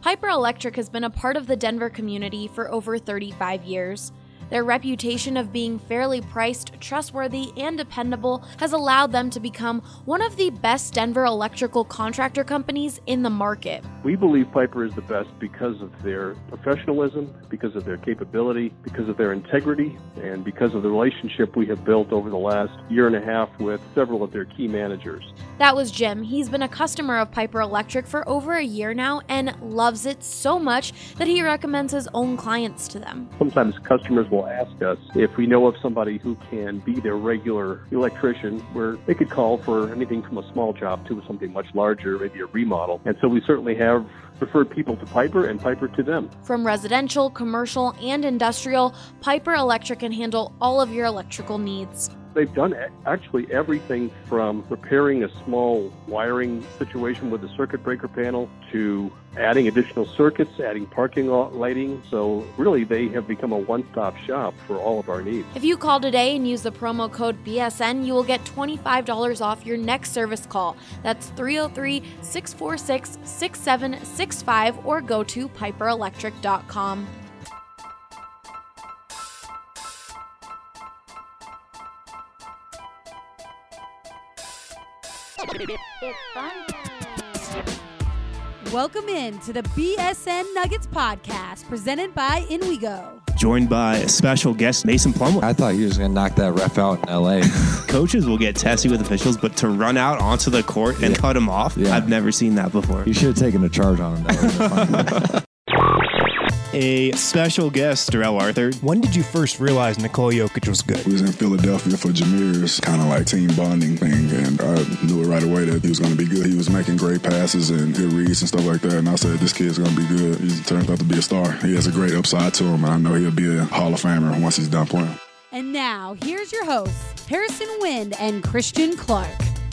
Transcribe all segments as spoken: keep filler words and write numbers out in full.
Piper Electric has been a part of the Denver community for over thirty-five years. Their reputation of being fairly priced, trustworthy, and dependable has allowed them to become one of the best Denver electrical contractor companies in the market. We believe Piper is the best because of their professionalism, because of their capability, because of their integrity, and because of the relationship we have built over the last year and a half with several of their key managers. That was Jim. He's been a customer of Piper Electric for over a year now and loves it so much that he recommends his own clients to them. Sometimes customers will ask us if we know of somebody who can be their regular electrician, where they could call for anything from a small job to something much larger, maybe a remodel. And so we certainly have referred people to Piper and Piper to them. From residential, commercial, and industrial, Piper Electric can handle all of your electrical needs. They've done actually everything from repairing a small wiring situation with a circuit breaker panel to adding additional circuits, adding parking lot lighting. So really, they have become a one-stop shop for all of our needs. If you call today and use the promo code B S N, you will get twenty-five dollars off your next service call. That's three oh three, six four six, six seven six five or go to piper electric dot com. It's fun time. Welcome in to the B S N Nuggets podcast presented by In We Go. Joined by special guest Mason Plumlee. I thought he was going to knock that ref out in L A. Coaches will get testy with officials, but to run out onto the court and yeah. cut him off, yeah. I've never seen that before. You should have taken a charge on him. That A special guest, Darrell Arthur. When did you first realize Nikola Jokic was good? We was in Philadelphia for Jameer's kind of like team bonding thing, and I knew it right away that he was going to be good. He was making great passes and good reads and stuff like that, and I said, this kid's going to be good. He turns out to be a star. He has a great upside to him, and I know he'll be a Hall of Famer once he's done playing. And now, here's your hosts, Harrison Wind and Christian Clark.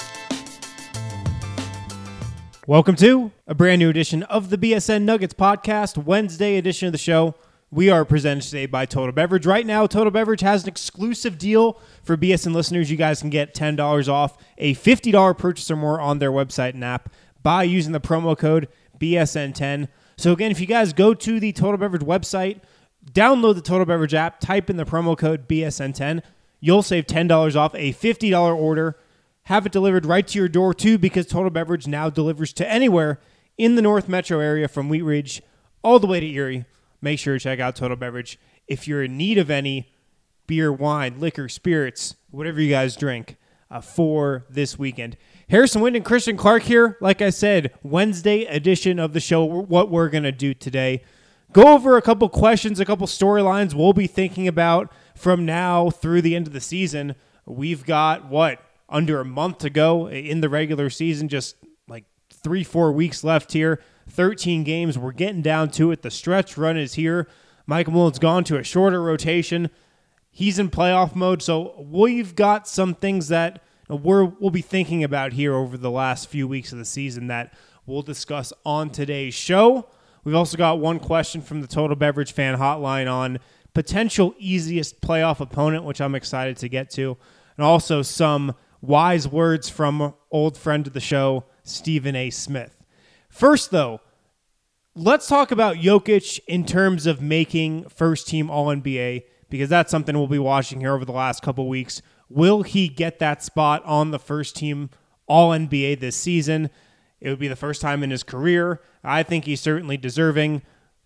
Welcome to a brand new edition of the B S N Nuggets podcast, Wednesday edition of the show. We are presented today by Total Beverage. Right now, Total Beverage has an exclusive deal for B S N listeners. You guys can get ten dollars off a fifty dollars purchase or more on their website and app by using the promo code B S N ten. So again, if you guys go to the Total Beverage website, download the Total Beverage app, type in the promo code B S N ten, you'll save ten dollars off a fifty dollars order. Have it delivered right to your door, too, because Total Beverage now delivers to anywhere in the North Metro area from Wheat Ridge all the way to Erie. Make sure to check out Total Beverage. If you're in need of any beer, wine, liquor, spirits, whatever you guys drink uh, for this weekend. Harrison Wind and Christian Clark here. Like I said, Wednesday edition of the show, what we're going to do today. Go over a couple questions, a couple storylines we'll be thinking about from now through the end of the season. We've got, what? Under a month to go in the regular season, just like three, four weeks left here. thirteen games. We're getting down to it. The stretch run is here. Michael Mullen's gone to a shorter rotation. He's in playoff mode. So we've got some things that we're, we'll be thinking about here over the last few weeks of the season that we'll discuss on today's show. We've also got one question from the Total Beverage fan hotline on potential easiest playoff opponent, which I'm excited to get to. And also some wise words from old friend of the show, Stephen A. Smith. First, though, let's talk about Jokic in terms of making first-team All N B A, because that's something we'll be watching here over the last couple weeks. Will he get that spot on the first-team All N B A this season? It would be the first time in his career. I think he's certainly deserving.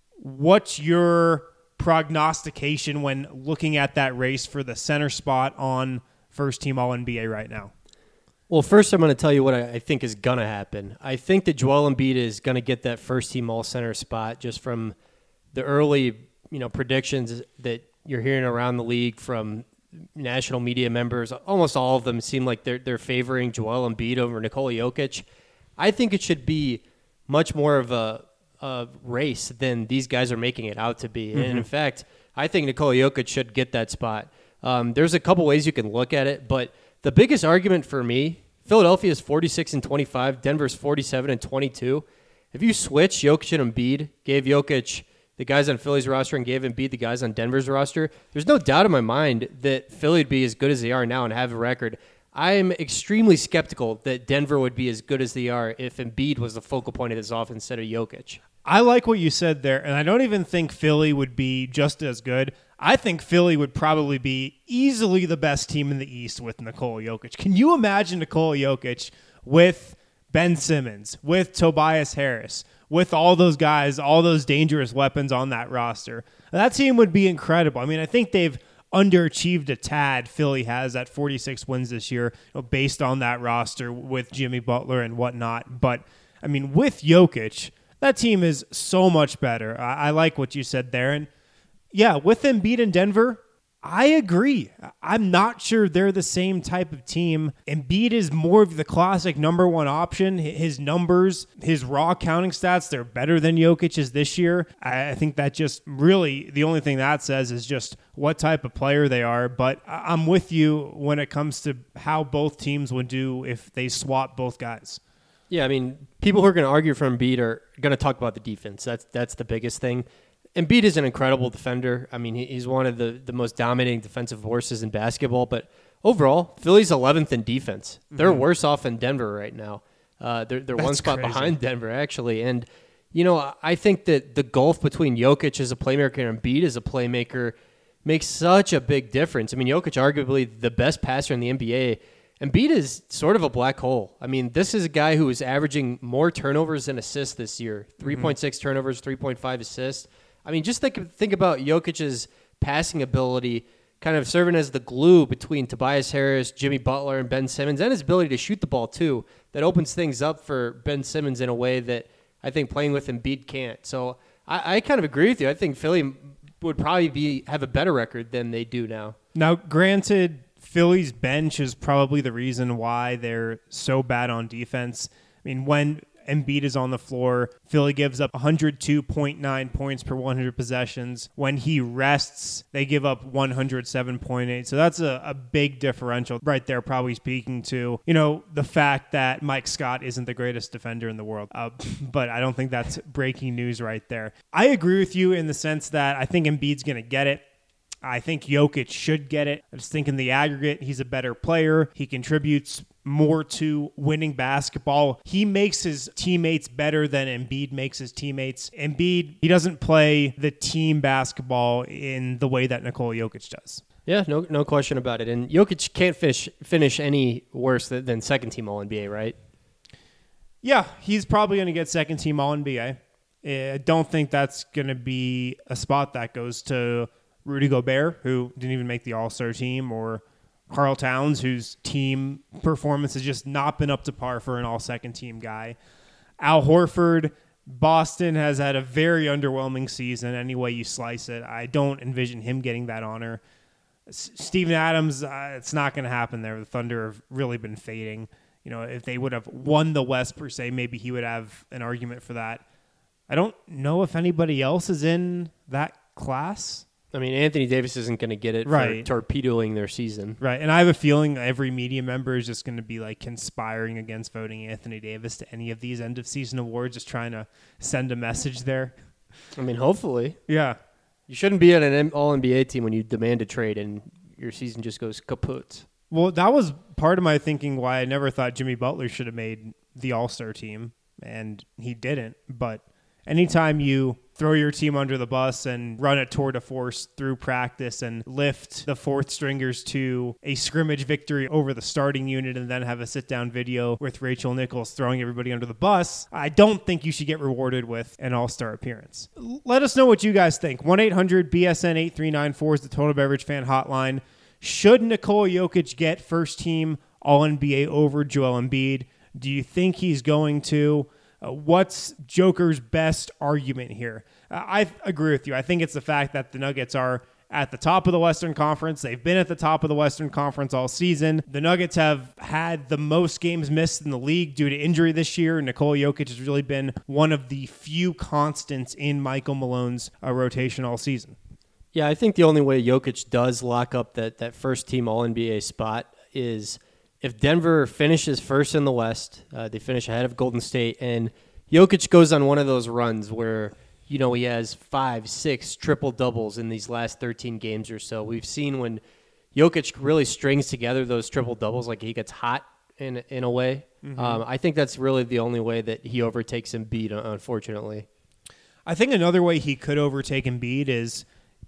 What's your prognostication when looking at that race for the center spot on first team All N B A right now? Well, first I'm going to tell you what I think is going to happen. I think that Joel Embiid is going to get that first team All Center spot just from the early, you know, predictions that you're hearing around the league from national media members. Almost all of them seem like they're they're favoring Joel Embiid over Nikola Jokic. I think it should be much more of a, a race than these guys are making it out to be. Mm-hmm. And in fact, I think Nikola Jokic should get that spot. Um, there's a couple ways you can look at it, but the biggest argument for me, Philadelphia is forty-six and twenty-five, Denver's forty-seven and twenty-two. If you switch Jokic and Embiid, gave Jokic the guys on Philly's roster and gave Embiid the guys on Denver's roster, there's no doubt in my mind that Philly would be as good as they are now and have a record. I'm extremely skeptical that Denver would be as good as they are if Embiid was the focal point of this offense instead of Jokic. I like what you said there, and I don't even think Philly would be just as good. I think Philly would probably be easily the best team in the East with Nikola Jokic. Can you imagine Nikola Jokic with Ben Simmons, with Tobias Harris, with all those guys, all those dangerous weapons on that roster? That team would be incredible. I mean, I think they've underachieved a tad. Philly has at forty-six wins this year, you know, based on that roster with Jimmy Butler and whatnot. But, I mean, with Jokic, that team is so much better. I, I like what you said there. And, yeah, with Embiid in Denver, I agree. I'm not sure they're the same type of team. Embiid is more of the classic number one option. His numbers, his raw counting stats, they're better than Jokic's this year. I think that just really, the only thing that says is just what type of player they are. But I'm with you when it comes to how both teams would do if they swap both guys. Yeah, I mean, people who are going to argue for Embiid are going to talk about the defense. That's that's the biggest thing. Embiid is an incredible defender. I mean, he's one of the, the most dominating defensive forces in basketball. But overall, Philly's eleventh in defense. They're mm-hmm. worse off than Denver right now. Uh, they're they're one spot crazy. behind Denver, actually. And, you know, I think that the gulf between Jokic as a playmaker and Embiid as a playmaker makes such a big difference. I mean, Jokic arguably the best passer in the N B A. Embiid is sort of a black hole. I mean, this is a guy who is averaging more turnovers than assists this year. three point six mm-hmm. turnovers, three point five assists. I mean, just think think about Jokic's passing ability kind of serving as the glue between Tobias Harris, Jimmy Butler, and Ben Simmons, and his ability to shoot the ball, too. That opens things up for Ben Simmons in a way that I think playing with Embiid can't. So I, I kind of agree with you. I think Philly would probably be have a better record than they do now. Now, granted, Philly's bench is probably the reason why they're so bad on defense. I mean, when Embiid is on the floor, Philly gives up one hundred two point nine points per one hundred possessions. When he rests, they give up one hundred seven point eight. So that's a, a big differential right there, probably speaking to, you know, the fact that Mike Scott isn't the greatest defender in the world. Uh, but I don't think that's breaking news right there. I agree with you in the sense that I think Embiid's going to get it. I think Jokic should get it. I just think in the aggregate, he's a better player. He contributes more to winning basketball. He makes his teammates better than Embiid makes his teammates. Embiid, he doesn't play the team basketball in the way that Nikola Jokic does. Yeah, no no question about it. And Jokic can't finish, finish any worse than, than second team All N B A, right? Yeah, he's probably going to get second team All N B A. I don't think that's going to be a spot that goes to Rudy Gobert, who didn't even make the All-Star team, or Karl Towns, whose team performance has just not been up to par for an all-second team guy. Al Horford, Boston has had a very underwhelming season any way you slice it. I don't envision him getting that honor. S- Steven Adams, uh, it's not going to happen there. The Thunder have really been fading. You know, if they would have won the West per se, maybe he would have an argument for that. I don't know if anybody else is in that class. I mean, Anthony Davis isn't going to get it right. for torpedoing their season. Right, and I have a feeling every media member is just going to be like conspiring against voting Anthony Davis to any of these end-of-season awards, just trying to send a message there. I mean, hopefully. Yeah. You shouldn't be on an All N B A team when you demand a trade and your season just goes kaput. Well, that was part of my thinking why I never thought Jimmy Butler should have made the All-Star team, and he didn't, but anytime you throw your team under the bus and run a tour de force through practice and lift the fourth stringers to a scrimmage victory over the starting unit and then have a sit-down video with Rachel Nichols throwing everybody under the bus, I don't think you should get rewarded with an all-star appearance. Let us know what you guys think. one eight hundred B S N eight three nine four is the Total Beverage Fan Hotline. Should Nikola Jokic get first-team All N B A over Joel Embiid? Do you think he's going to? Uh, what's Joker's best argument here? Uh, I agree with you. I think it's the fact that the Nuggets are at the top of the Western Conference. They've been at the top of the Western Conference all season. The Nuggets have had the most games missed in the league due to injury this year. Nikola Jokic has really been one of the few constants in Michael Malone's uh, rotation all season. Yeah, I think the only way Jokic does lock up that, that first-team All N B A spot is if Denver finishes first in the West, uh, they finish ahead of Golden State, and Jokic goes on one of those runs where, you know, he has five, six triple-doubles in these last thirteen games or so. We've seen when Jokic really strings together those triple doubles, like he gets hot in in a way. Mm-hmm. Um, I think that's really the only way that he overtakes Embiid, unfortunately. I think another way he could overtake Embiid is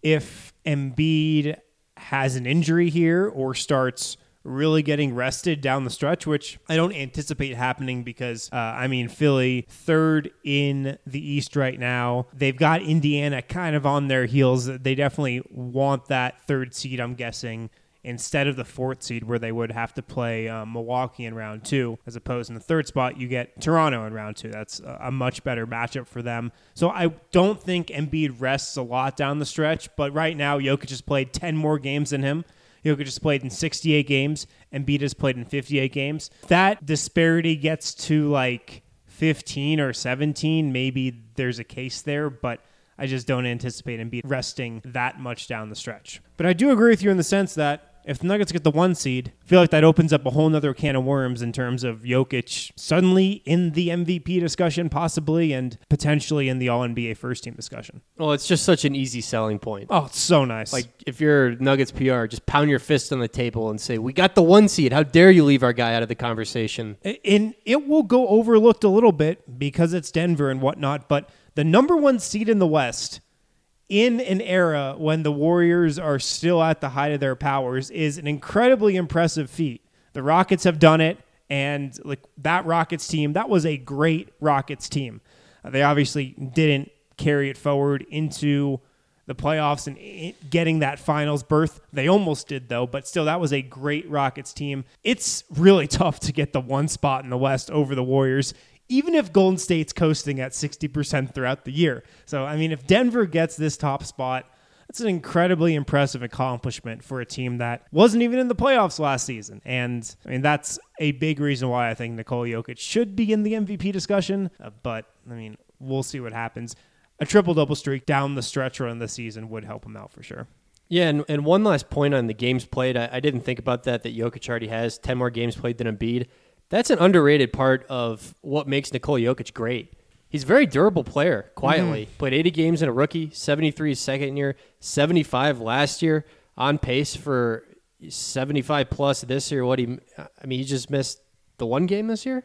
if Embiid has an injury here or starts really getting rested down the stretch, which I don't anticipate happening because, uh, I mean, Philly, third in the East right now. They've got Indiana kind of on their heels. They definitely want that third seed, I'm guessing, instead of the fourth seed where they would have to play um, Milwaukee in round two, as opposed in the third spot, you get Toronto in round two. That's a, a much better matchup for them. So I don't think Embiid rests a lot down the stretch, but right now Jokic has played ten more games than him. Jokic has played in sixty-eight games. Embiid has played in fifty-eight games. That disparity gets to like fifteen or seventeen. Maybe there's a case there, but I just don't anticipate Embiid resting that much down the stretch. But I do agree with you in the sense that if the Nuggets get the one seed, I feel like that opens up a whole nother can of worms in terms of Jokic suddenly in the M V P discussion, possibly, and potentially in the All N B A first team discussion. Well, it's just such an easy selling point. Oh, it's so nice. Like, if you're Nuggets P R, just pound your fist on the table and say, we got the one seed. How dare you leave our guy out of the conversation? And it will go overlooked a little bit because it's Denver and whatnot, but the number one seed in the West in an era when the Warriors are still at the height of their powers is an incredibly impressive feat. The Rockets have done it, and like that Rockets team, that was a great Rockets team. Uh, they obviously didn't carry it forward into the playoffs and it, getting that finals berth. They almost did, though, but still, that was a great Rockets team. It's really tough to get the one spot in the West over the Warriors, even if Golden State's coasting at sixty percent throughout the year. So, I mean, if Denver gets this top spot, that's an incredibly impressive accomplishment for a team that wasn't even in the playoffs last season. And, I mean, that's a big reason why I think Nikola Jokic should be in the M V P discussion. Uh, but, I mean, we'll see what happens. A triple-double streak down the stretch run this season would help him out for sure. Yeah, and, and one last point on the games played. I, I didn't think about that, that Jokic already has ten more games played than Embiid. That's an underrated part of what makes Nikola Jokic great. He's a very durable player, quietly. Mm-hmm. Played eighty games in a rookie, seventy-three second year, seventy-five last year, on pace for seventy-five plus this year. What he, I mean, he just missed the one game this year?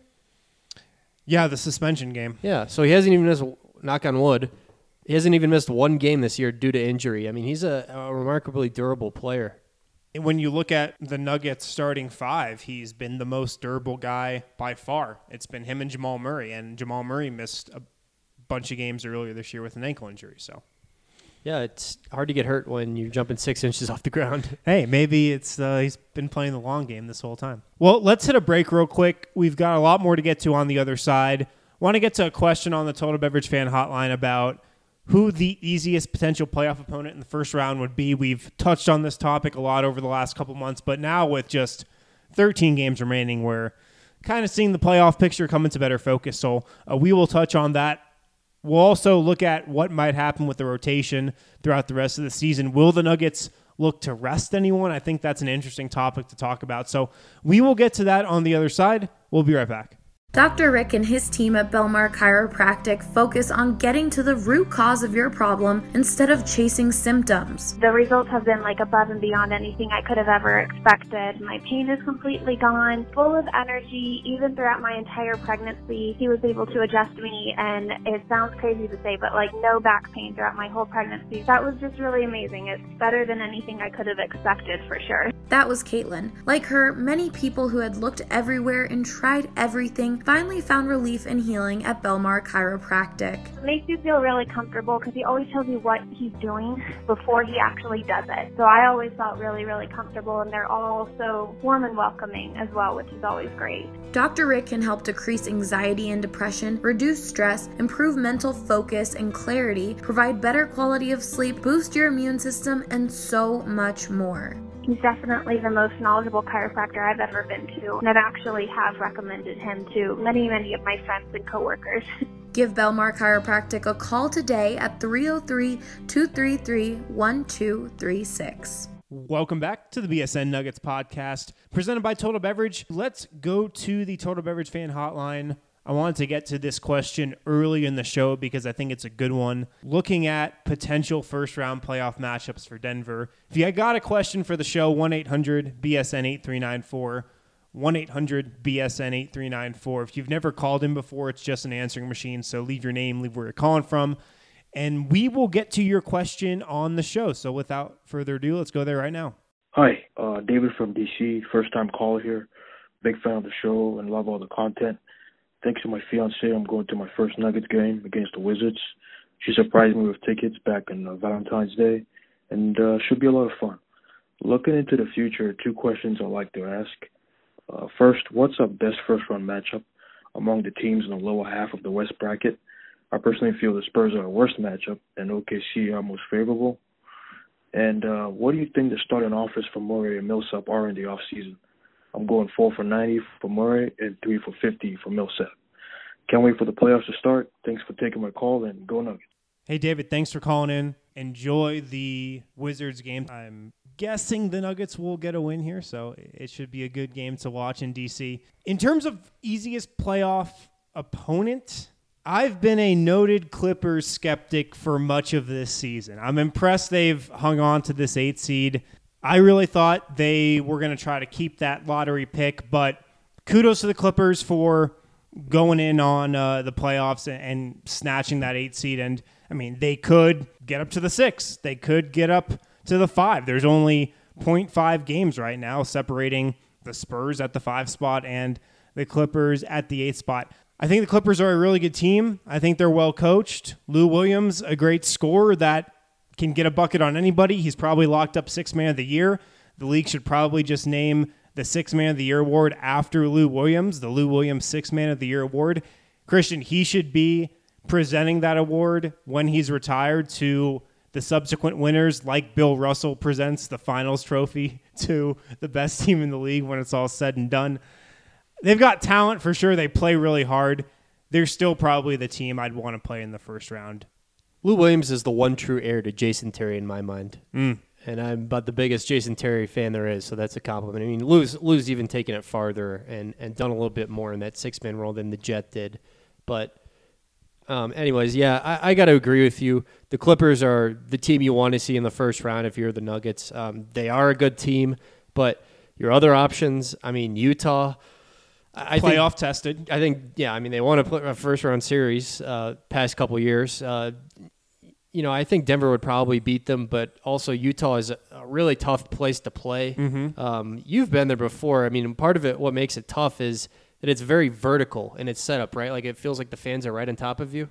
Yeah, the suspension game. Yeah, so he hasn't even missed, knock on wood, he hasn't even missed one game this year due to injury. I mean, he's a, a remarkably durable player. When you look at the Nuggets starting five, he's been the most durable guy by far. It's been him and Jamal Murray, and Jamal Murray missed a bunch of games earlier this year with an ankle injury. So, yeah, it's hard to get hurt when you're jumping six inches off the ground. Hey, maybe it's uh, he's been playing the long game this whole time. Well, let's hit a break real quick. We've got a lot more to get to on the other side. Want to get to a question on the Total Beverage Fan Hotline about who the easiest potential playoff opponent in the first round would be. We've touched on this topic a lot over the last couple months, but now with just thirteen games remaining, we're kind of seeing the playoff picture come into better focus. So uh, we will touch on that. We'll also look at what might happen with the rotation throughout the rest of the season. Will the Nuggets look to rest anyone? I think that's an interesting topic to talk about. So we will get to that on the other side. We'll be right back. Doctor Rick and his team at Belmar Chiropractic focus on getting to the root cause of your problem instead of chasing symptoms. The results have been like above and beyond anything I could have ever expected. My pain is completely gone, full of energy. Even throughout my entire pregnancy, he was able to adjust me, and it sounds crazy to say, but like no back pain throughout my whole pregnancy. That was just really amazing. It's better than anything I could have expected for sure. That was Caitlin. Like her, many people who had looked everywhere and tried everything finally found relief and healing at Belmar Chiropractic. It makes you feel really comfortable because he always tells you what he's doing before he actually does it. So I always felt really, really comfortable, and they're all so warm and welcoming as well, which is always great. Doctor Rick can help decrease anxiety and depression, reduce stress, improve mental focus and clarity, provide better quality of sleep, boost your immune system, and so much more. He's definitely the most knowledgeable chiropractor I've ever been to, and I've actually have recommended him to many, many of my friends and coworkers. Give Belmar Chiropractic a call today at three oh three, two three three, one two three six. Welcome back to the B S N Nuggets podcast, presented by Total Beverage. Let's go to the Total Beverage Fan Hotline. I wanted to get to this question early in the show because I think it's a good one. Looking at potential first-round playoff matchups for Denver, if you got a question for the show, one eight hundred B S N eight three nine four, one eight hundred B S N eight three nine four. If you've never called in before, it's just an answering machine, so leave your name, leave where you're calling from, and we will get to your question on the show. So without further ado, let's go there right now. Hi, uh, David from D C, first-time caller here. Big fan of the show and love all the content. Thanks to my fiancée, I'm going to my first Nuggets game against the Wizards. She surprised me with tickets back on uh, Valentine's Day, and uh, should be a lot of fun. Looking into the future, two questions I'd like to ask. Uh, first, what's our best first-round matchup among the teams in the lower half of the West bracket? I personally feel the Spurs are the worst matchup, and O K C are most favorable. And uh, what do you think the starting offers for Murray and Millsap are in the offseason? I'm going four for ninety for Murray and three for fifty for Millsap. Can't wait for the playoffs to start. Thanks for taking my call, and go Nuggets. Hey, David, thanks for calling in. Enjoy the Wizards game. I'm guessing the Nuggets will get a win here, so it should be a good game to watch in D C. In terms of easiest playoff opponent, I've been a noted Clippers skeptic for much of this season. I'm impressed they've hung on to this eight seed. I really thought they were going to try to keep that lottery pick, but kudos to the Clippers for going in on uh, the playoffs and, and snatching that eight seed. And, I mean, they could get up to the six. They could get up to the five. There's only zero point five games right now separating the Spurs at the five spot and the Clippers at the eight spot. I think the Clippers are a really good team. I think they're well coached. Lou Williams, a great scorer that can get a bucket on anybody. He's probably locked up sixth man of the year. The league should probably just name the sixth man of the year award after Lou Williams, the Lou Williams sixth man of the year award. Christian, he should be presenting that award when he's retired to the subsequent winners, like Bill Russell presents the finals trophy to the best team in the league when it's all said and done. They've got talent for sure. They play really hard. They're still probably the team I'd want to play in the first round. Lou Williams is the one true heir to Jason Terry in my mind. Mm. And I'm about the biggest Jason Terry fan there is, so that's a compliment. I mean, Lou's, Lou's even taken it farther and, and done a little bit more in that six-man role than the Jet did. But um, anyways, yeah, I, I got to agree with you. The Clippers are the team you want to see in the first round if you're the Nuggets. Um, they are a good team, but your other options, I mean, Utah – I Playoff think, tested. I think, yeah, I mean, they won a, a first-round series uh, past couple years. Uh, you know, I think Denver would probably beat them, but also Utah is a, a really tough place to play. Mm-hmm. Um, you've been there before. I mean, part of it, what makes it tough is that it's very vertical in its setup, right? Like, it feels like the fans are right on top of you.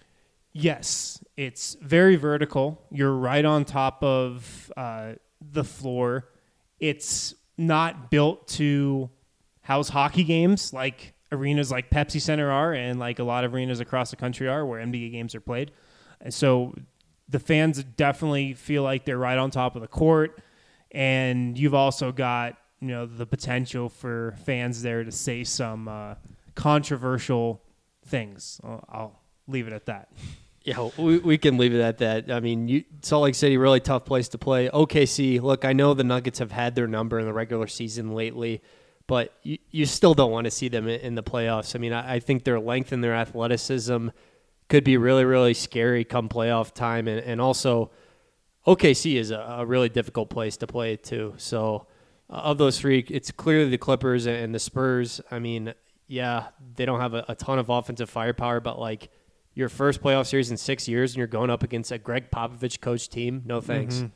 Yes, it's very vertical. You're right on top of uh, the floor. It's not built to house hockey games like arenas like Pepsi Center are and like a lot of arenas across the country are where N B A games are played. And so the fans definitely feel like they're right on top of the court. And you've also got, you know, the potential for fans there to say some uh, controversial things. I'll, I'll leave it at that. Yeah, we, we can leave it at that. I mean, you, Salt Lake City, really tough place to play. O K C, look, I know the Nuggets have had their number in the regular season lately, but you, you still don't want to see them in, in the playoffs. I mean, I, I think their length and their athleticism could be really, really scary come playoff time. And, and also, O K C is a, a really difficult place to play too. So uh, of those three, it's clearly the Clippers and the Spurs. I mean, yeah, they don't have a, a ton of offensive firepower, but like your first playoff series in six years and you're going up against a Greg Popovich coach team, no thanks. Mm-hmm.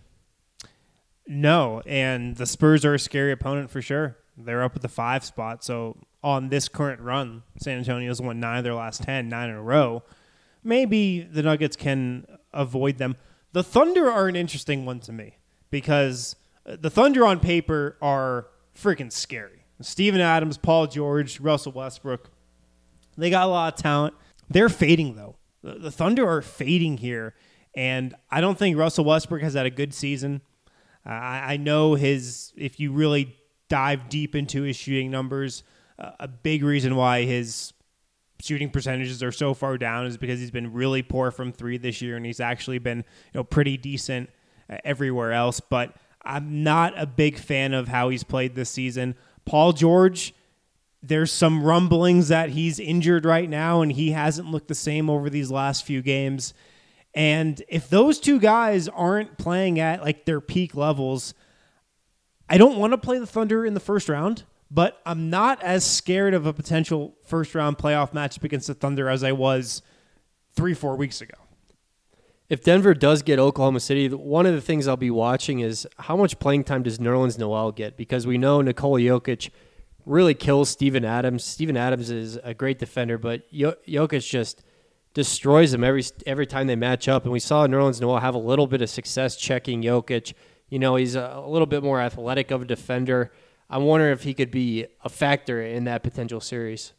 No, and the Spurs are a scary opponent for sure. They're up at the five spot. So on this current run, San Antonio's won nine of their last ten, nine in a row. Maybe the Nuggets can avoid them. The Thunder are an interesting one to me because the Thunder on paper are freaking scary. Steven Adams, Paul George, Russell Westbrook, they got a lot of talent. They're fading, though. The, the Thunder are fading here, and I don't think Russell Westbrook has had a good season. Uh, I, I know his, if you really dive deep into his shooting numbers, uh, a big reason why his shooting percentages are so far down is because he's been really poor from three this year, and he's actually been, you know, pretty decent uh, everywhere else. But I'm not a big fan of how he's played this season. Paul George There's some rumblings that he's injured right now and he hasn't looked the same over these last few games. And if those two guys aren't playing at like their peak levels, I don't want to play the Thunder in the first round, but I'm not as scared of a potential first round playoff matchup against the Thunder as I was three, four weeks ago. If Denver does get Oklahoma City, one of the things I'll be watching is how much playing time does Nerlens Noel get? Because we know Nikola Jokic really kills Steven Adams. Steven Adams is a great defender, but Jokic just destroys him every every time they match up. And we saw Nerlens Noel have a little bit of success checking Jokic. You know, he's a, a little bit more athletic of a defender. I'm wondering if he could be a factor in that potential series.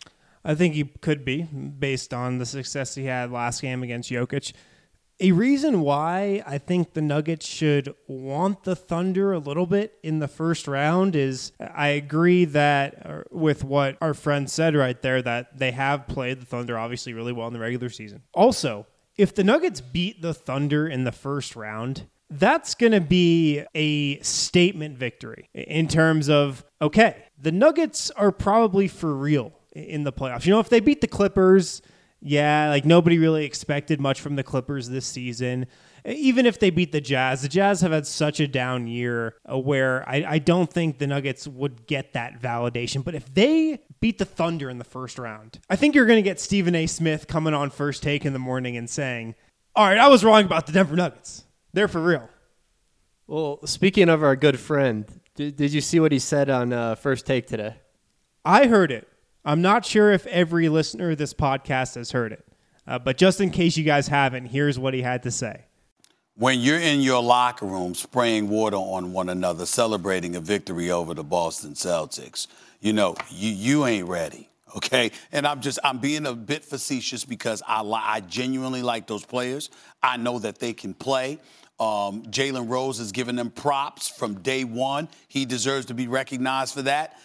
I think he could be, based on the success he had last game against Jokic. A reason why I think the Nuggets should want the Thunder a little bit in the first round is I agree that with what our friend said right there, that they have played the Thunder obviously really well in the regular season. Also, if the Nuggets beat the Thunder in the first round, that's going to be a statement victory in terms of, okay, the Nuggets are probably for real in the playoffs. You know, if they beat the Clippers, yeah, like nobody really expected much from the Clippers this season. Even if they beat the Jazz, the Jazz have had such a down year where I, I don't think the Nuggets would get that validation. But if they beat the Thunder in the first round, I think you're going to get Stephen A. Smith coming on First Take in the morning and saying, all right, I was wrong about the Denver Nuggets. They're for real. Well, speaking of our good friend, did, did you see what he said on uh, First Take today? I heard it. I'm not sure if every listener of this podcast has heard it, uh, but just in case you guys haven't, here's what he had to say. When you're in your locker room spraying water on one another, celebrating a victory over the Boston Celtics, you know, you, you ain't ready, okay? And I'm just, I'm being a bit facetious because I, li- I genuinely like those players. I know that they can play. Um, Jalen Rose has given them props from day one. He deserves to be recognized for that.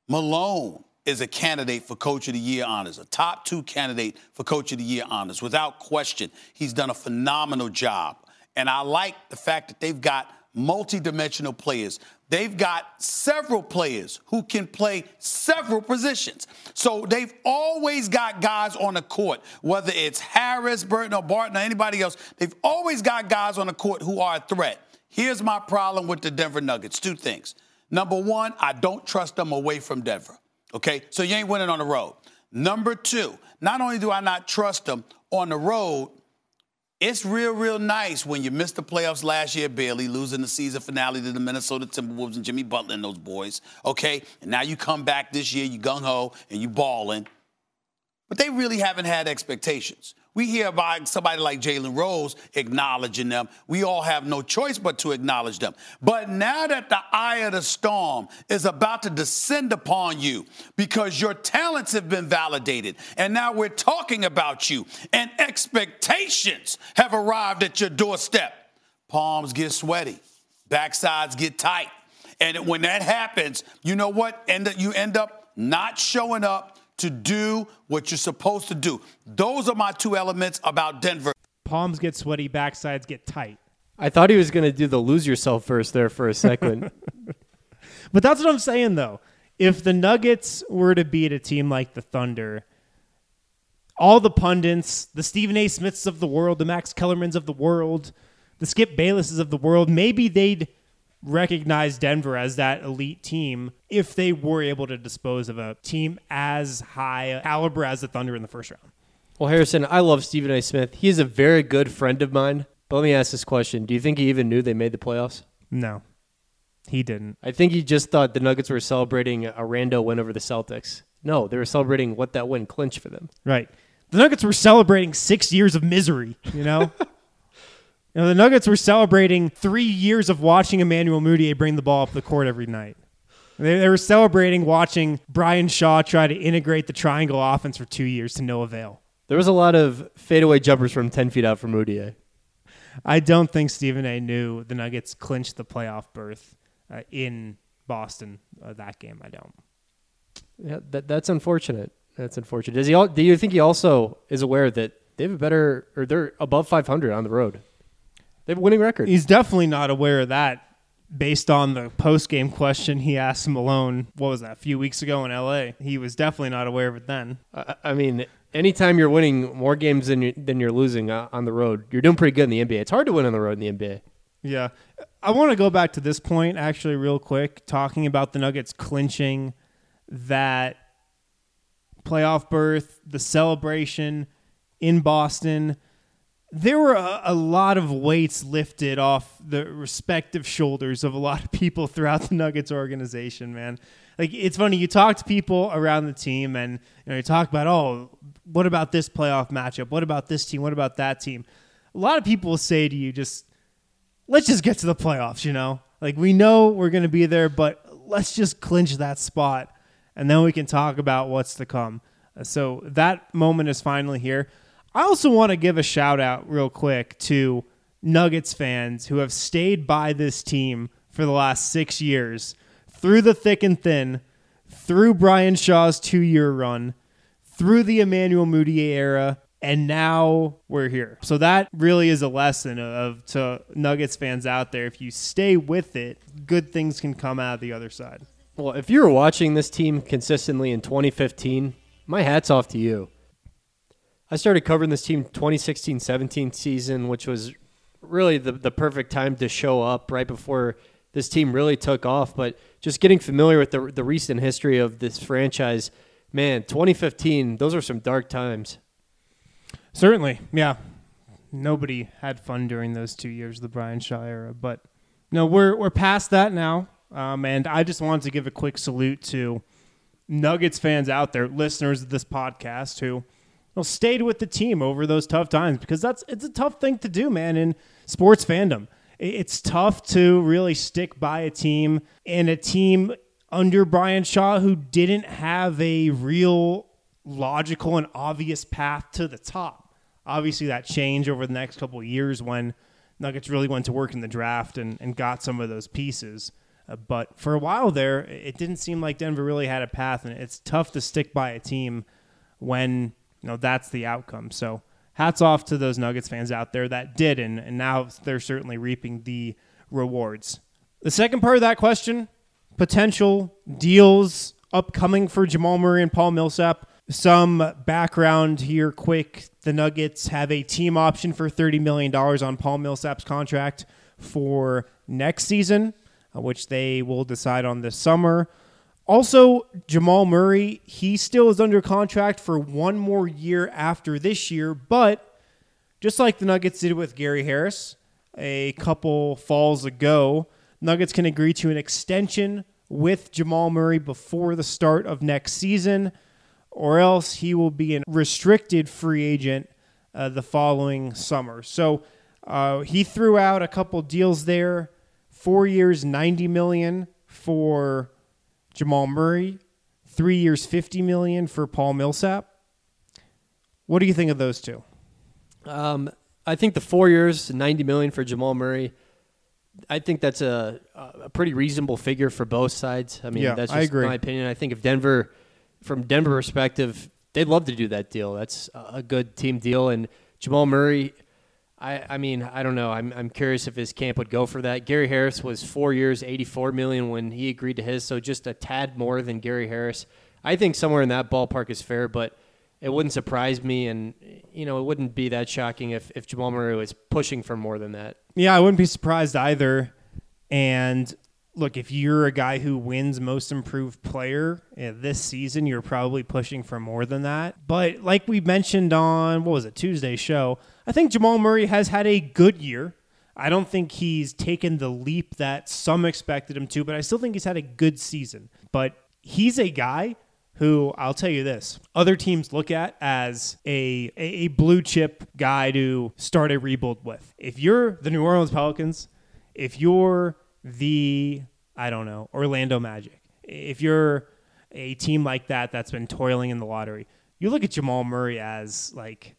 Malone is a candidate for Coach of the Year honors, a top two candidate for Coach of the Year honors. Without question, he's done a phenomenal job. And I like the fact that they've got multi-dimensional players. They've got several players who can play several positions. So they've always got guys on the court, whether it's Harris, Burton, or Barton, or anybody else. They've always got guys on the court who are a threat. Here's my problem with the Denver Nuggets. Two things. Number one, I don't trust them away from Denver. Okay, so you ain't winning on the road. Number two, not only do I not trust them on the road, it's real, real nice when you missed the playoffs last year, barely losing the season finale to the Minnesota Timberwolves and Jimmy Butler and those boys, okay? And now you come back this year, you gung-ho, and you balling. But they really haven't had expectations. We hear about somebody like Jalen Rose acknowledging them. We all have no choice but to acknowledge them. But now that the eye of the storm is about to descend upon you because your talents have been validated, and now we're talking about you, and expectations have arrived at your doorstep, palms get sweaty, backsides get tight. And when that happens, you know what? End you end up not showing up to do what you're supposed to do. Those are my two elements about Denver. Palms get sweaty, backsides get tight. I thought he was going to do the lose yourself first there for a second. But that's what I'm saying, though. If the Nuggets were to beat a team like the Thunder, all the pundits, the Stephen A. Smiths of the world, the Max Kellermans of the world, the Skip Baylesses of the world, maybe they'd recognize Denver as that elite team if they were able to dispose of a team as high caliber as the Thunder in the first round. Well, Harrison, I love Stephen A. Smith. He is a very good friend of mine. But let me ask this question. Do you think he even knew they made the playoffs? No, he didn't. I think he just thought the Nuggets were celebrating a rando win over the Celtics. No, they were celebrating what that win clinched for them. Right. The Nuggets were celebrating six years of misery, you know? You know, the Nuggets were celebrating three years of watching Emmanuel Mudiay bring the ball up the court every night. They, they were celebrating watching Brian Shaw try to integrate the triangle offense for two years to no avail. There was a lot of fadeaway jumpers from ten feet out for Mudiay. I don't think Stephen A. knew the Nuggets clinched the playoff berth uh, in Boston uh, that game. I don't. Yeah, that, that's unfortunate. That's unfortunate. Does he? All, do you think he also is aware that they have a better, or they're above five hundred on the road? They have a winning record. He's definitely not aware of that based on the post-game question he asked Malone, what was that, a few weeks ago in L A, he was definitely not aware of it then. I, I mean, anytime you're winning more games than you're, than you're losing uh, on the road, you're doing pretty good in the N B A. It's hard to win on the road in the N B A. Yeah. I want to go back to this point, actually, real quick, talking about the Nuggets clinching that playoff berth, the celebration in Boston. There were a, a lot of weights lifted off the respective shoulders of a lot of people throughout the Nuggets organization, man. Like, it's funny, you talk to people around the team and you know, you talk about, oh, what about this playoff matchup? What about this team? What about that team? A lot of people will say to you, just, let's just get to the playoffs, you know? Like, we know we're going to be there, but let's just clinch that spot, and then we can talk about what's to come. So that moment is finally here. I also want to give a shout-out real quick to Nuggets fans who have stayed by this team for the last six years, through the thick and thin, through Brian Shaw's two-year run, through the Emmanuel Mudiay era, and now we're here. So that really is a lesson of to Nuggets fans out there. If you stay with it, good things can come out of the other side. Well, if you were watching this team consistently in twenty fifteen, my hat's off to you. I started covering this team twenty sixteen seventeen season, which was really the, the perfect time to show up right before this team really took off. But just getting familiar with the the recent history of this franchise, man, twenty fifteen, those are some dark times. Certainly, yeah. Nobody had fun during those two years of the Brian Shaw era. But no, we're we're past that now. Um, and I just wanted to give a quick salute to Nuggets fans out there, listeners of this podcast who Well, stayed with the team over those tough times, because that's it's a tough thing to do, man, in sports fandom. It's tough to really stick by a team, and a team under Brian Shaw who didn't have a real logical and obvious path to the top. Obviously, that changed over the next couple of years when Nuggets really went to work in the draft and, and got some of those pieces. Uh, but for a while there, it didn't seem like Denver really had a path, and it's tough to stick by a team when you know that's the outcome. So hats off to those Nuggets fans out there that did, and, and now they're certainly reaping the rewards. The second part of that question, potential deals upcoming for Jamal Murray and Paul Millsap. Some background here quick. The Nuggets have a team option for thirty million dollars on Paul Millsap's contract for next season, uh, which they will decide on this summer. Also, Jamal Murray, he still is under contract for one more year after this year, but just like the Nuggets did with Gary Harris a couple falls ago, Nuggets can agree to an extension with Jamal Murray before the start of next season, or else he will be a restricted free agent uh, the following summer. So uh, he threw out a couple deals there, four years, ninety million dollars for Jamal Murray, three years, fifty million dollars for Paul Millsap. What do you think of those two? Um, I think the four years, ninety million dollars for Jamal Murray, I think that's a a pretty reasonable figure for both sides. I mean, yeah, that's I just agree. my opinion. I think if Denver, from Denver perspective, they'd love to do that deal. That's a good team deal. And Jamal Murray, I, I mean, I don't know. I'm I'm curious if his camp would go for that. Gary Harris was four years, eighty-four million dollars when he agreed to his, so just a tad more than Gary Harris. I think somewhere in that ballpark is fair, but it wouldn't surprise me, and you know, it wouldn't be that shocking if, if Jamal Murray was pushing for more than that. Yeah, I wouldn't be surprised either. And look, if you're a guy who wins Most Improved Player uh, this season, you're probably pushing for more than that. But like we mentioned on, what was it, Tuesday's show, I think Jamal Murray has had a good year. I don't think he's taken the leap that some expected him to, but I still think he's had a good season. But he's a guy who, I'll tell you this, other teams look at as a, a, a blue chip guy to start a rebuild with. If you're the New Orleans Pelicans, if you're the, I don't know, Orlando Magic, if you're a team like that that's been toiling in the lottery, you look at Jamal Murray as like,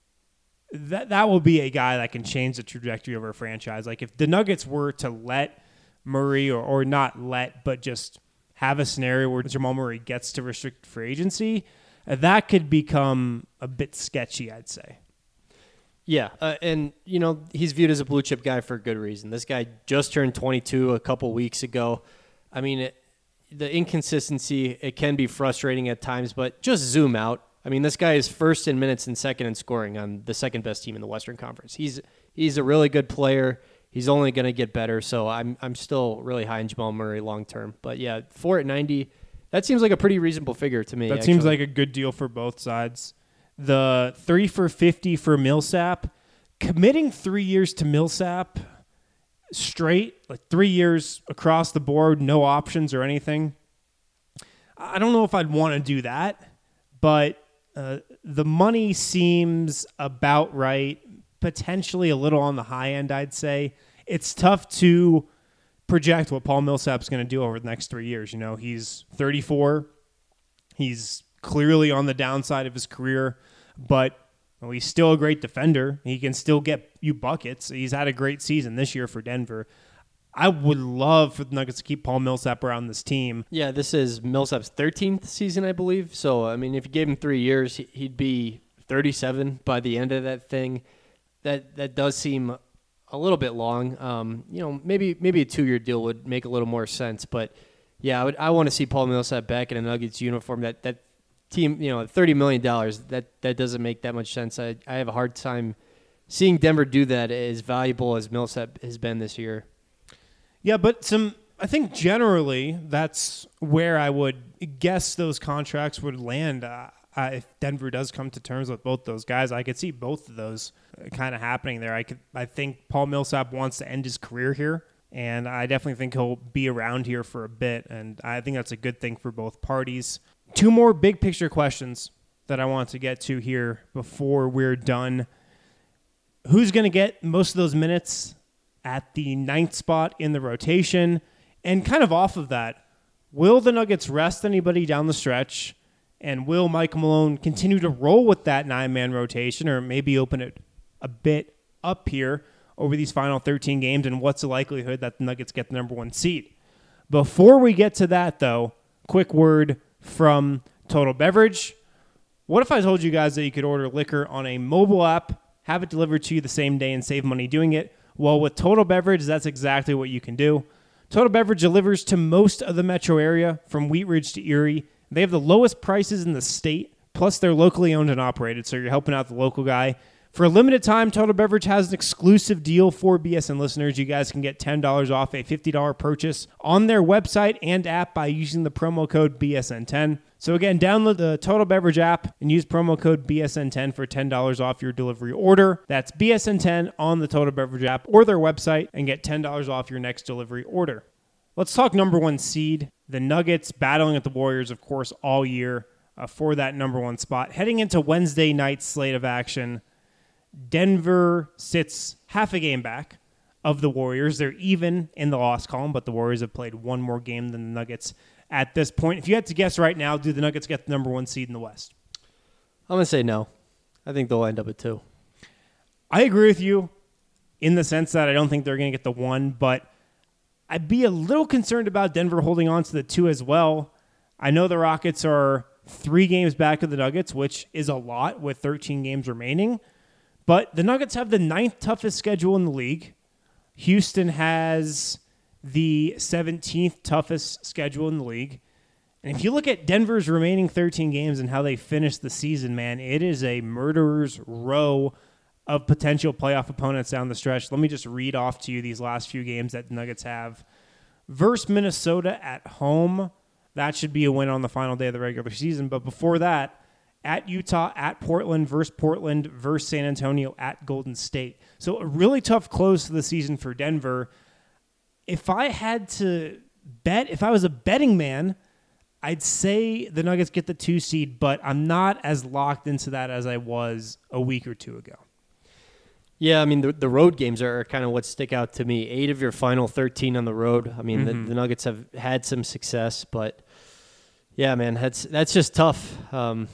that that will be a guy that can change the trajectory of our franchise. Like if the Nuggets were to let Murray, or, or not let, but just have a scenario where Jamal Murray gets to restricted free agency, uh, that could become a bit sketchy, I'd say. Yeah, uh, and, you know, he's viewed as a blue-chip guy for a good reason. This guy just turned twenty-two a couple weeks ago. I mean, it, the inconsistency, it can be frustrating at times, but just zoom out. I mean, this guy is first in minutes and second in scoring on the second-best team in the Western Conference. He's he's a really good player. He's only going to get better, so I'm I'm still really high in Jamal Murray long-term. But, yeah, four at ninety, that seems like a pretty reasonable figure to me. That actually. seems like a good deal for both sides. The three for fifty for Millsap, committing three years to Millsap straight, like three years across the board, no options or anything. I don't know if I'd want to do that, but uh, the money seems about right, potentially a little on the high end, I'd say. It's tough to project what Paul Millsap's going to do over the next three years. You know, he's thirty-four. He's clearly on the downside of his career, but well, he's still a great defender. He can still get you buckets. He's had a great season this year for Denver. I would love for the Nuggets to keep Paul Millsap around this team. Yeah, this is Millsap's thirteenth season, I believe. So, I mean, if you gave him three years, he'd be thirty-seven by the end of that thing. That that does seem a little bit long. Um, you know, maybe maybe a two-year deal would make a little more sense. But, yeah, I would I want to see Paul Millsap back in a Nuggets uniform. That that team, you know, thirty million dollars, that, that doesn't make that much sense. I, I have a hard time seeing Denver do that as valuable as Millsap has been this year. Yeah, but some I think generally that's where I would guess those contracts would land. Uh, uh, if Denver does come to terms with both those guys, I could see both of those kind of happening there. I could, I think Paul Millsap wants to end his career here, and I definitely think he'll be around here for a bit, and I think that's a good thing for both parties. Two more big picture questions that I want to get to here before we're done. Who's going to get most of those minutes at the ninth spot in the rotation? And kind of off of that, will the Nuggets rest anybody down the stretch? And will Mike Malone continue to roll with that nine-man rotation, or maybe open it a bit up here over these final thirteen games? And what's the likelihood that the Nuggets get the number one seed? Before we get to that, though, quick word from Total Beverage. What if I told you guys that you could order liquor on a mobile app, have it delivered to you the same day, and save money doing it? Well, with Total Beverage, that's exactly what you can do. Total Beverage delivers to most of the metro area, from Wheat Ridge to Erie. They have the lowest prices in the state, plus they're locally owned and operated, so you're helping out the local guy. For a limited time, Total Beverage has an exclusive deal for B S N listeners. You guys can get ten dollars off a fifty dollars purchase on their website and app by using the promo code B S N ten. So again, download the Total Beverage app and use promo code B S N ten for ten dollars off your delivery order. That's B S N ten on the Total Beverage app or their website, and get ten dollars off your next delivery order. Let's talk number one seed. The Nuggets battling with the Warriors, of course, all year uh, for that number one spot. Heading into Wednesday night's slate of action, Denver sits half a game back of the Warriors. They're even in the loss column, but the Warriors have played one more game than the Nuggets at this point. If you had to guess right now, do the Nuggets get the number one seed in the West? I'm going to say no. I think they'll end up at two. I agree with you in the sense that I don't think they're going to get the one, but I'd be a little concerned about Denver holding on to the two as well. I know the Rockets are three games back of the Nuggets, which is a lot with thirteen games remaining. But the Nuggets have the ninth toughest schedule in the league. Houston has the seventeenth toughest schedule in the league. And if you look at Denver's remaining thirteen games and how they finished the season, man, it is a murderer's row of potential playoff opponents down the stretch. Let me just read off to you these last few games that the Nuggets have. Versus Minnesota at home. That should be a win on the final day of the regular season. But before that, at Utah, at Portland, versus Portland, versus San Antonio, at Golden State. So a really tough close to the season for Denver. If I had to bet, if I was a betting man, I'd say the Nuggets get the two seed, but I'm not as locked into that as I was a week or two ago. Yeah, I mean, the the road games are kind of what stick out to me. Eight of your final thirteen on the road. I mean, mm-hmm. the, the Nuggets have had some success, but yeah, man, that's that's just tough. Um,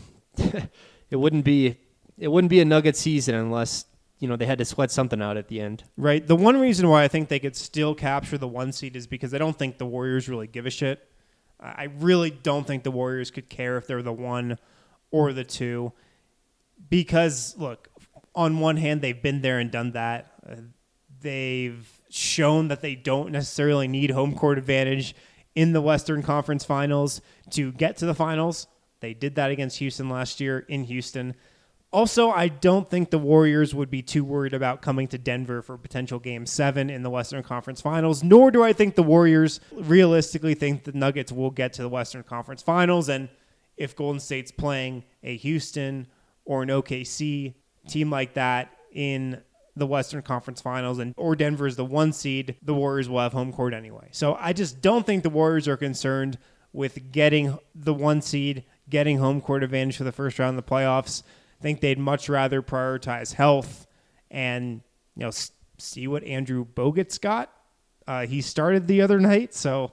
it wouldn't be it wouldn't be a Nugget season unless, you know, they had to sweat something out at the end. Right. The one reason why I think they could still capture the one seed is because I don't think the Warriors really give a shit. I really don't think the Warriors could care if they're the one or the two. Because, look, on one hand, they've been there and done that. Uh, they've shown that they don't necessarily need home court advantage in the Western Conference Finals to get to the finals. They did that against Houston last year in Houston. Also, I don't think the Warriors would be too worried about coming to Denver for potential Game seven in the Western Conference Finals, nor do I think the Warriors realistically think the Nuggets will get to the Western Conference Finals. And if Golden State's playing a Houston or an O K C team like that in the Western Conference Finals, and or Denver is the one seed, the Warriors will have home court anyway. So I just don't think the Warriors are concerned with getting the one seed, getting home court advantage for the first round of the playoffs. I think they'd much rather prioritize health and, you know, s- see what Andrew Bogut's got. Uh, he started the other night, so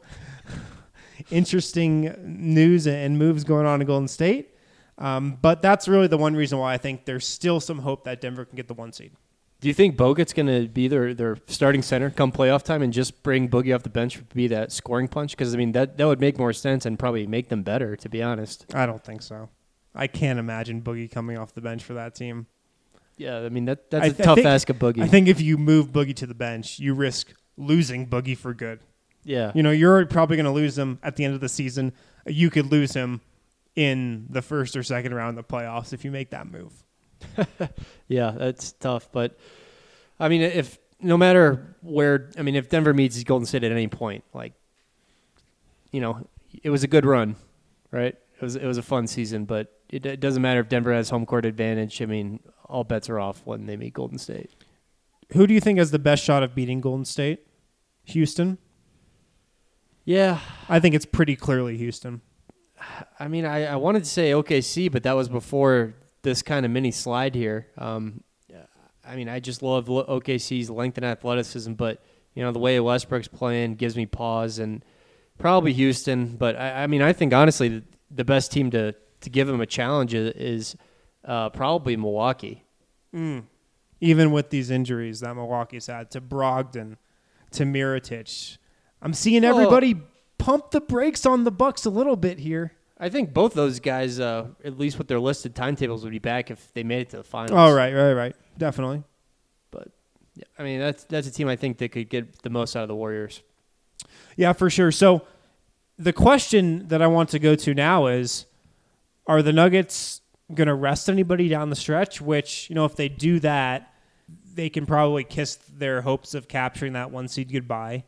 interesting news and moves going on in Golden State. Um, but that's really the one reason why I think there's still some hope that Denver can get the one seed. Do you think Bogut's going to be their, their starting center come playoff time and just bring Boogie off the bench to be that scoring punch? Because, I mean, that, that would make more sense and probably make them better, to be honest. I don't think so. I can't imagine Boogie coming off the bench for that team. Yeah, I mean, that that's I, a tough think, ask of Boogie. I think if you move Boogie to the bench, you risk losing Boogie for good. Yeah. You know, you're probably going to lose him at the end of the season. You could lose him in the first or second round of the playoffs if you make that move. Yeah, that's tough. But, I mean, if no matter where, I mean, if Denver meets Golden State at any point, like, you know, it was a good run, right? It was it was a fun season, but it, it doesn't matter if Denver has home court advantage. I mean, all bets are off when they meet Golden State. Who do you think has the best shot of beating Golden State? Houston? Yeah. I think it's pretty clearly Houston. I mean, I, I wanted to say O K C, but that was before this kind of mini slide here. Um, I mean, I just love O K C's length and athleticism, but, you know, the way Westbrook's playing gives me pause, and probably Houston. But, I, I mean, I think, honestly, the, the best team to, to give him a challenge is, is uh, probably Milwaukee. Mm. Even with these injuries that Milwaukee's had to Brogdon, to Mirotic. I'm seeing everybody well, pump the brakes on the Bucks a little bit here. I think both those guys, uh, at least with their listed timetables, would be back if they made it to the finals. Oh, right, right, right. Definitely. But, yeah, I mean, that's that's a team I think that could get the most out of the Warriors. Yeah, for sure. So the question that I want to go to now is, are the Nuggets going to rest anybody down the stretch? Which, you know, if they do that, they can probably kiss their hopes of capturing that one seed goodbye.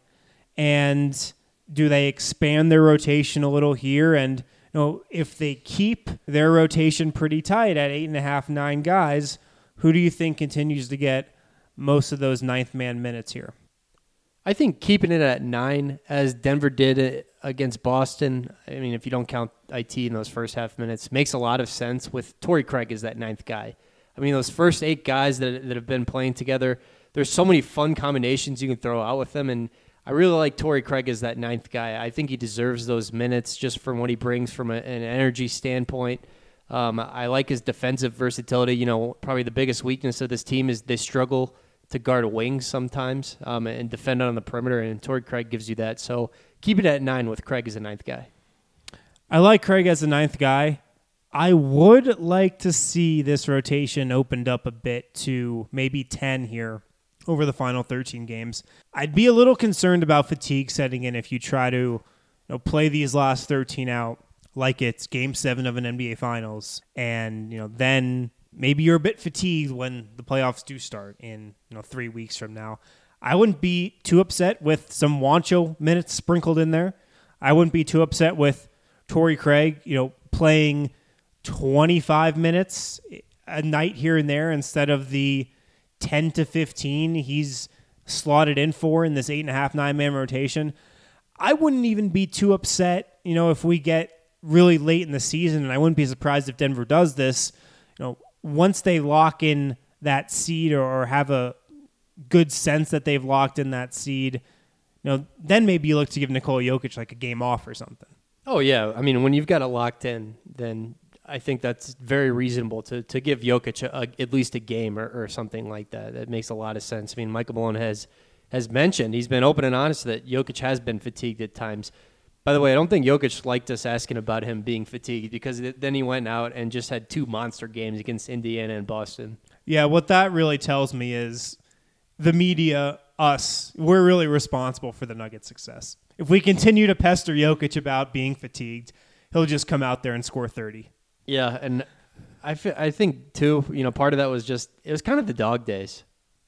And do they expand their rotation a little here? And, you know, if they keep their rotation pretty tight at eight and a half, nine guys, who do you think continues to get most of those ninth man minutes here? I think keeping it at nine, as Denver did against Boston, I mean, if you don't count I T in those first half minutes, makes a lot of sense with Torrey Craig as that ninth guy. I mean, those first eight guys that that have been playing together, there's so many fun combinations you can throw out with them, and I really like Torrey Craig as that ninth guy. I think he deserves those minutes just from what he brings from a, an energy standpoint. Um, I like his defensive versatility. You know, probably the biggest weakness of this team is they struggle to guard wings sometimes um, and defend on the perimeter, and Torrey Craig gives you that. So keep it at nine with Craig as a ninth guy. I like Craig as a ninth guy. I would like to see this rotation opened up a bit to maybe ten here over the final thirteen games. I'd be a little concerned about fatigue setting in if you try to, you know, play these last thirteen out like it's game seven of an N B A Finals. And, you know, then maybe you're a bit fatigued when the playoffs do start in, you know, three weeks from now. I wouldn't be too upset with some Juancho minutes sprinkled in there. I wouldn't be too upset with Torrey Craig, you know, playing twenty-five minutes a night here and there instead of the ten to fifteen he's slotted in for in this eight and a half, nine man rotation. I wouldn't even be too upset, you know, if we get really late in the season, and I wouldn't be surprised if Denver does this, you know, once they lock in that seed or, or have a good sense that they've locked in that seed, you know, then maybe you look to give Nikola Jokic like a game off or something. Oh, yeah. I mean, when you've got it locked in, then I think that's very reasonable to, to give Jokic a, a, at least a game or, or something like that. That makes a lot of sense. I mean, Michael Malone has has mentioned, he's been open and honest that Jokic has been fatigued at times. By the way, I don't think Jokic liked us asking about him being fatigued because then he went out and just had two monster games against Indiana and Boston. Yeah, what that really tells me is the media, us, we're really responsible for the Nuggets' success. If we continue to pester Jokic about being fatigued, he'll just come out there and score thirty. Yeah, and I, f- I think, too, you know, part of that was just, it was kind of the dog days.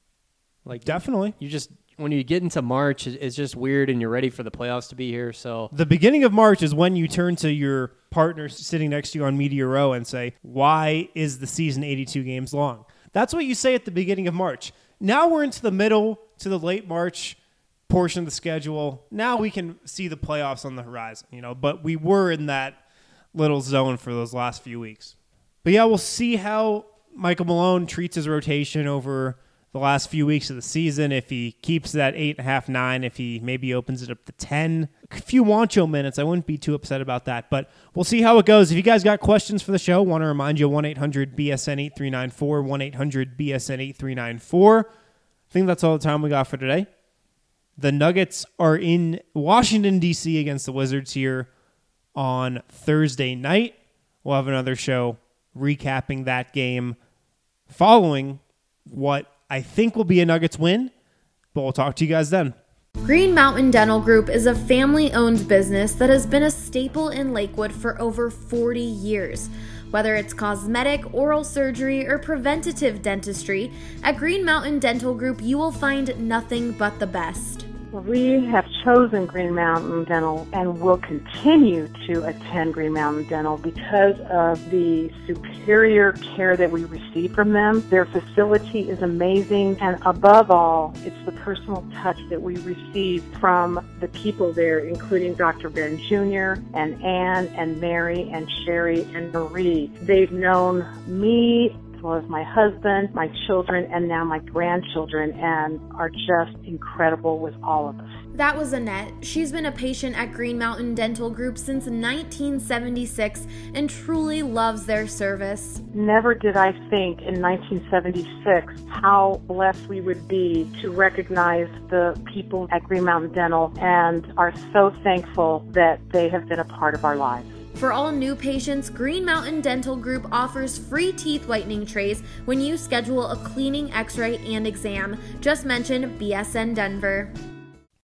Like Definitely. You just, when you get into March, it's just weird and you're ready for the playoffs to be here. So the beginning of March is when you turn to your partner sitting next to you on Media Row and say, why is the season eighty-two games long? That's what you say at the beginning of March. Now we're into the middle to the late March portion of the schedule. Now we can see the playoffs on the horizon, you know, but we were in that little zone for those last few weeks. But yeah, we'll see how Michael Malone treats his rotation over the last few weeks of the season. If he keeps that eight and a half, nine, if he maybe opens it up to ten, a few Juancho minutes, I wouldn't be too upset about that. But we'll see how it goes. If you guys got questions for the show, want to remind you, one eight hundred B S N eight three nine four, one eight hundred B S N eight three nine four. I think that's all the time we got for today. The Nuggets are in Washington, D C against the Wizards here on Thursday night. We'll have another show recapping that game following what I think will be a Nuggets win, but we'll talk to you guys then. Green Mountain Dental Group is a family-owned business that has been a staple in Lakewood for over forty years. Whether it's cosmetic, oral surgery, or preventative dentistry, at Green Mountain Dental Group you will find nothing but the best. We have chosen Green Mountain Dental and will continue to attend Green Mountain Dental because of the superior care that we receive from them. Their facility is amazing, and above all, it's the personal touch that we receive from the people there, including Doctor Ben Junior and Ann and Mary and Sherry and Marie. They've known me as well as my husband, my children, and now my grandchildren, and are just incredible with all of us. That was Annette. She's been a patient at Green Mountain Dental Group since nineteen seventy-six and truly loves their service. Never did I think in nineteen seventy-six how blessed we would be to recognize the people at Green Mountain Dental, and are so thankful that they have been a part of our lives. For all new patients, Green Mountain Dental Group offers free teeth whitening trays when you schedule a cleaning, x-ray, and exam. Just mention B S N Denver.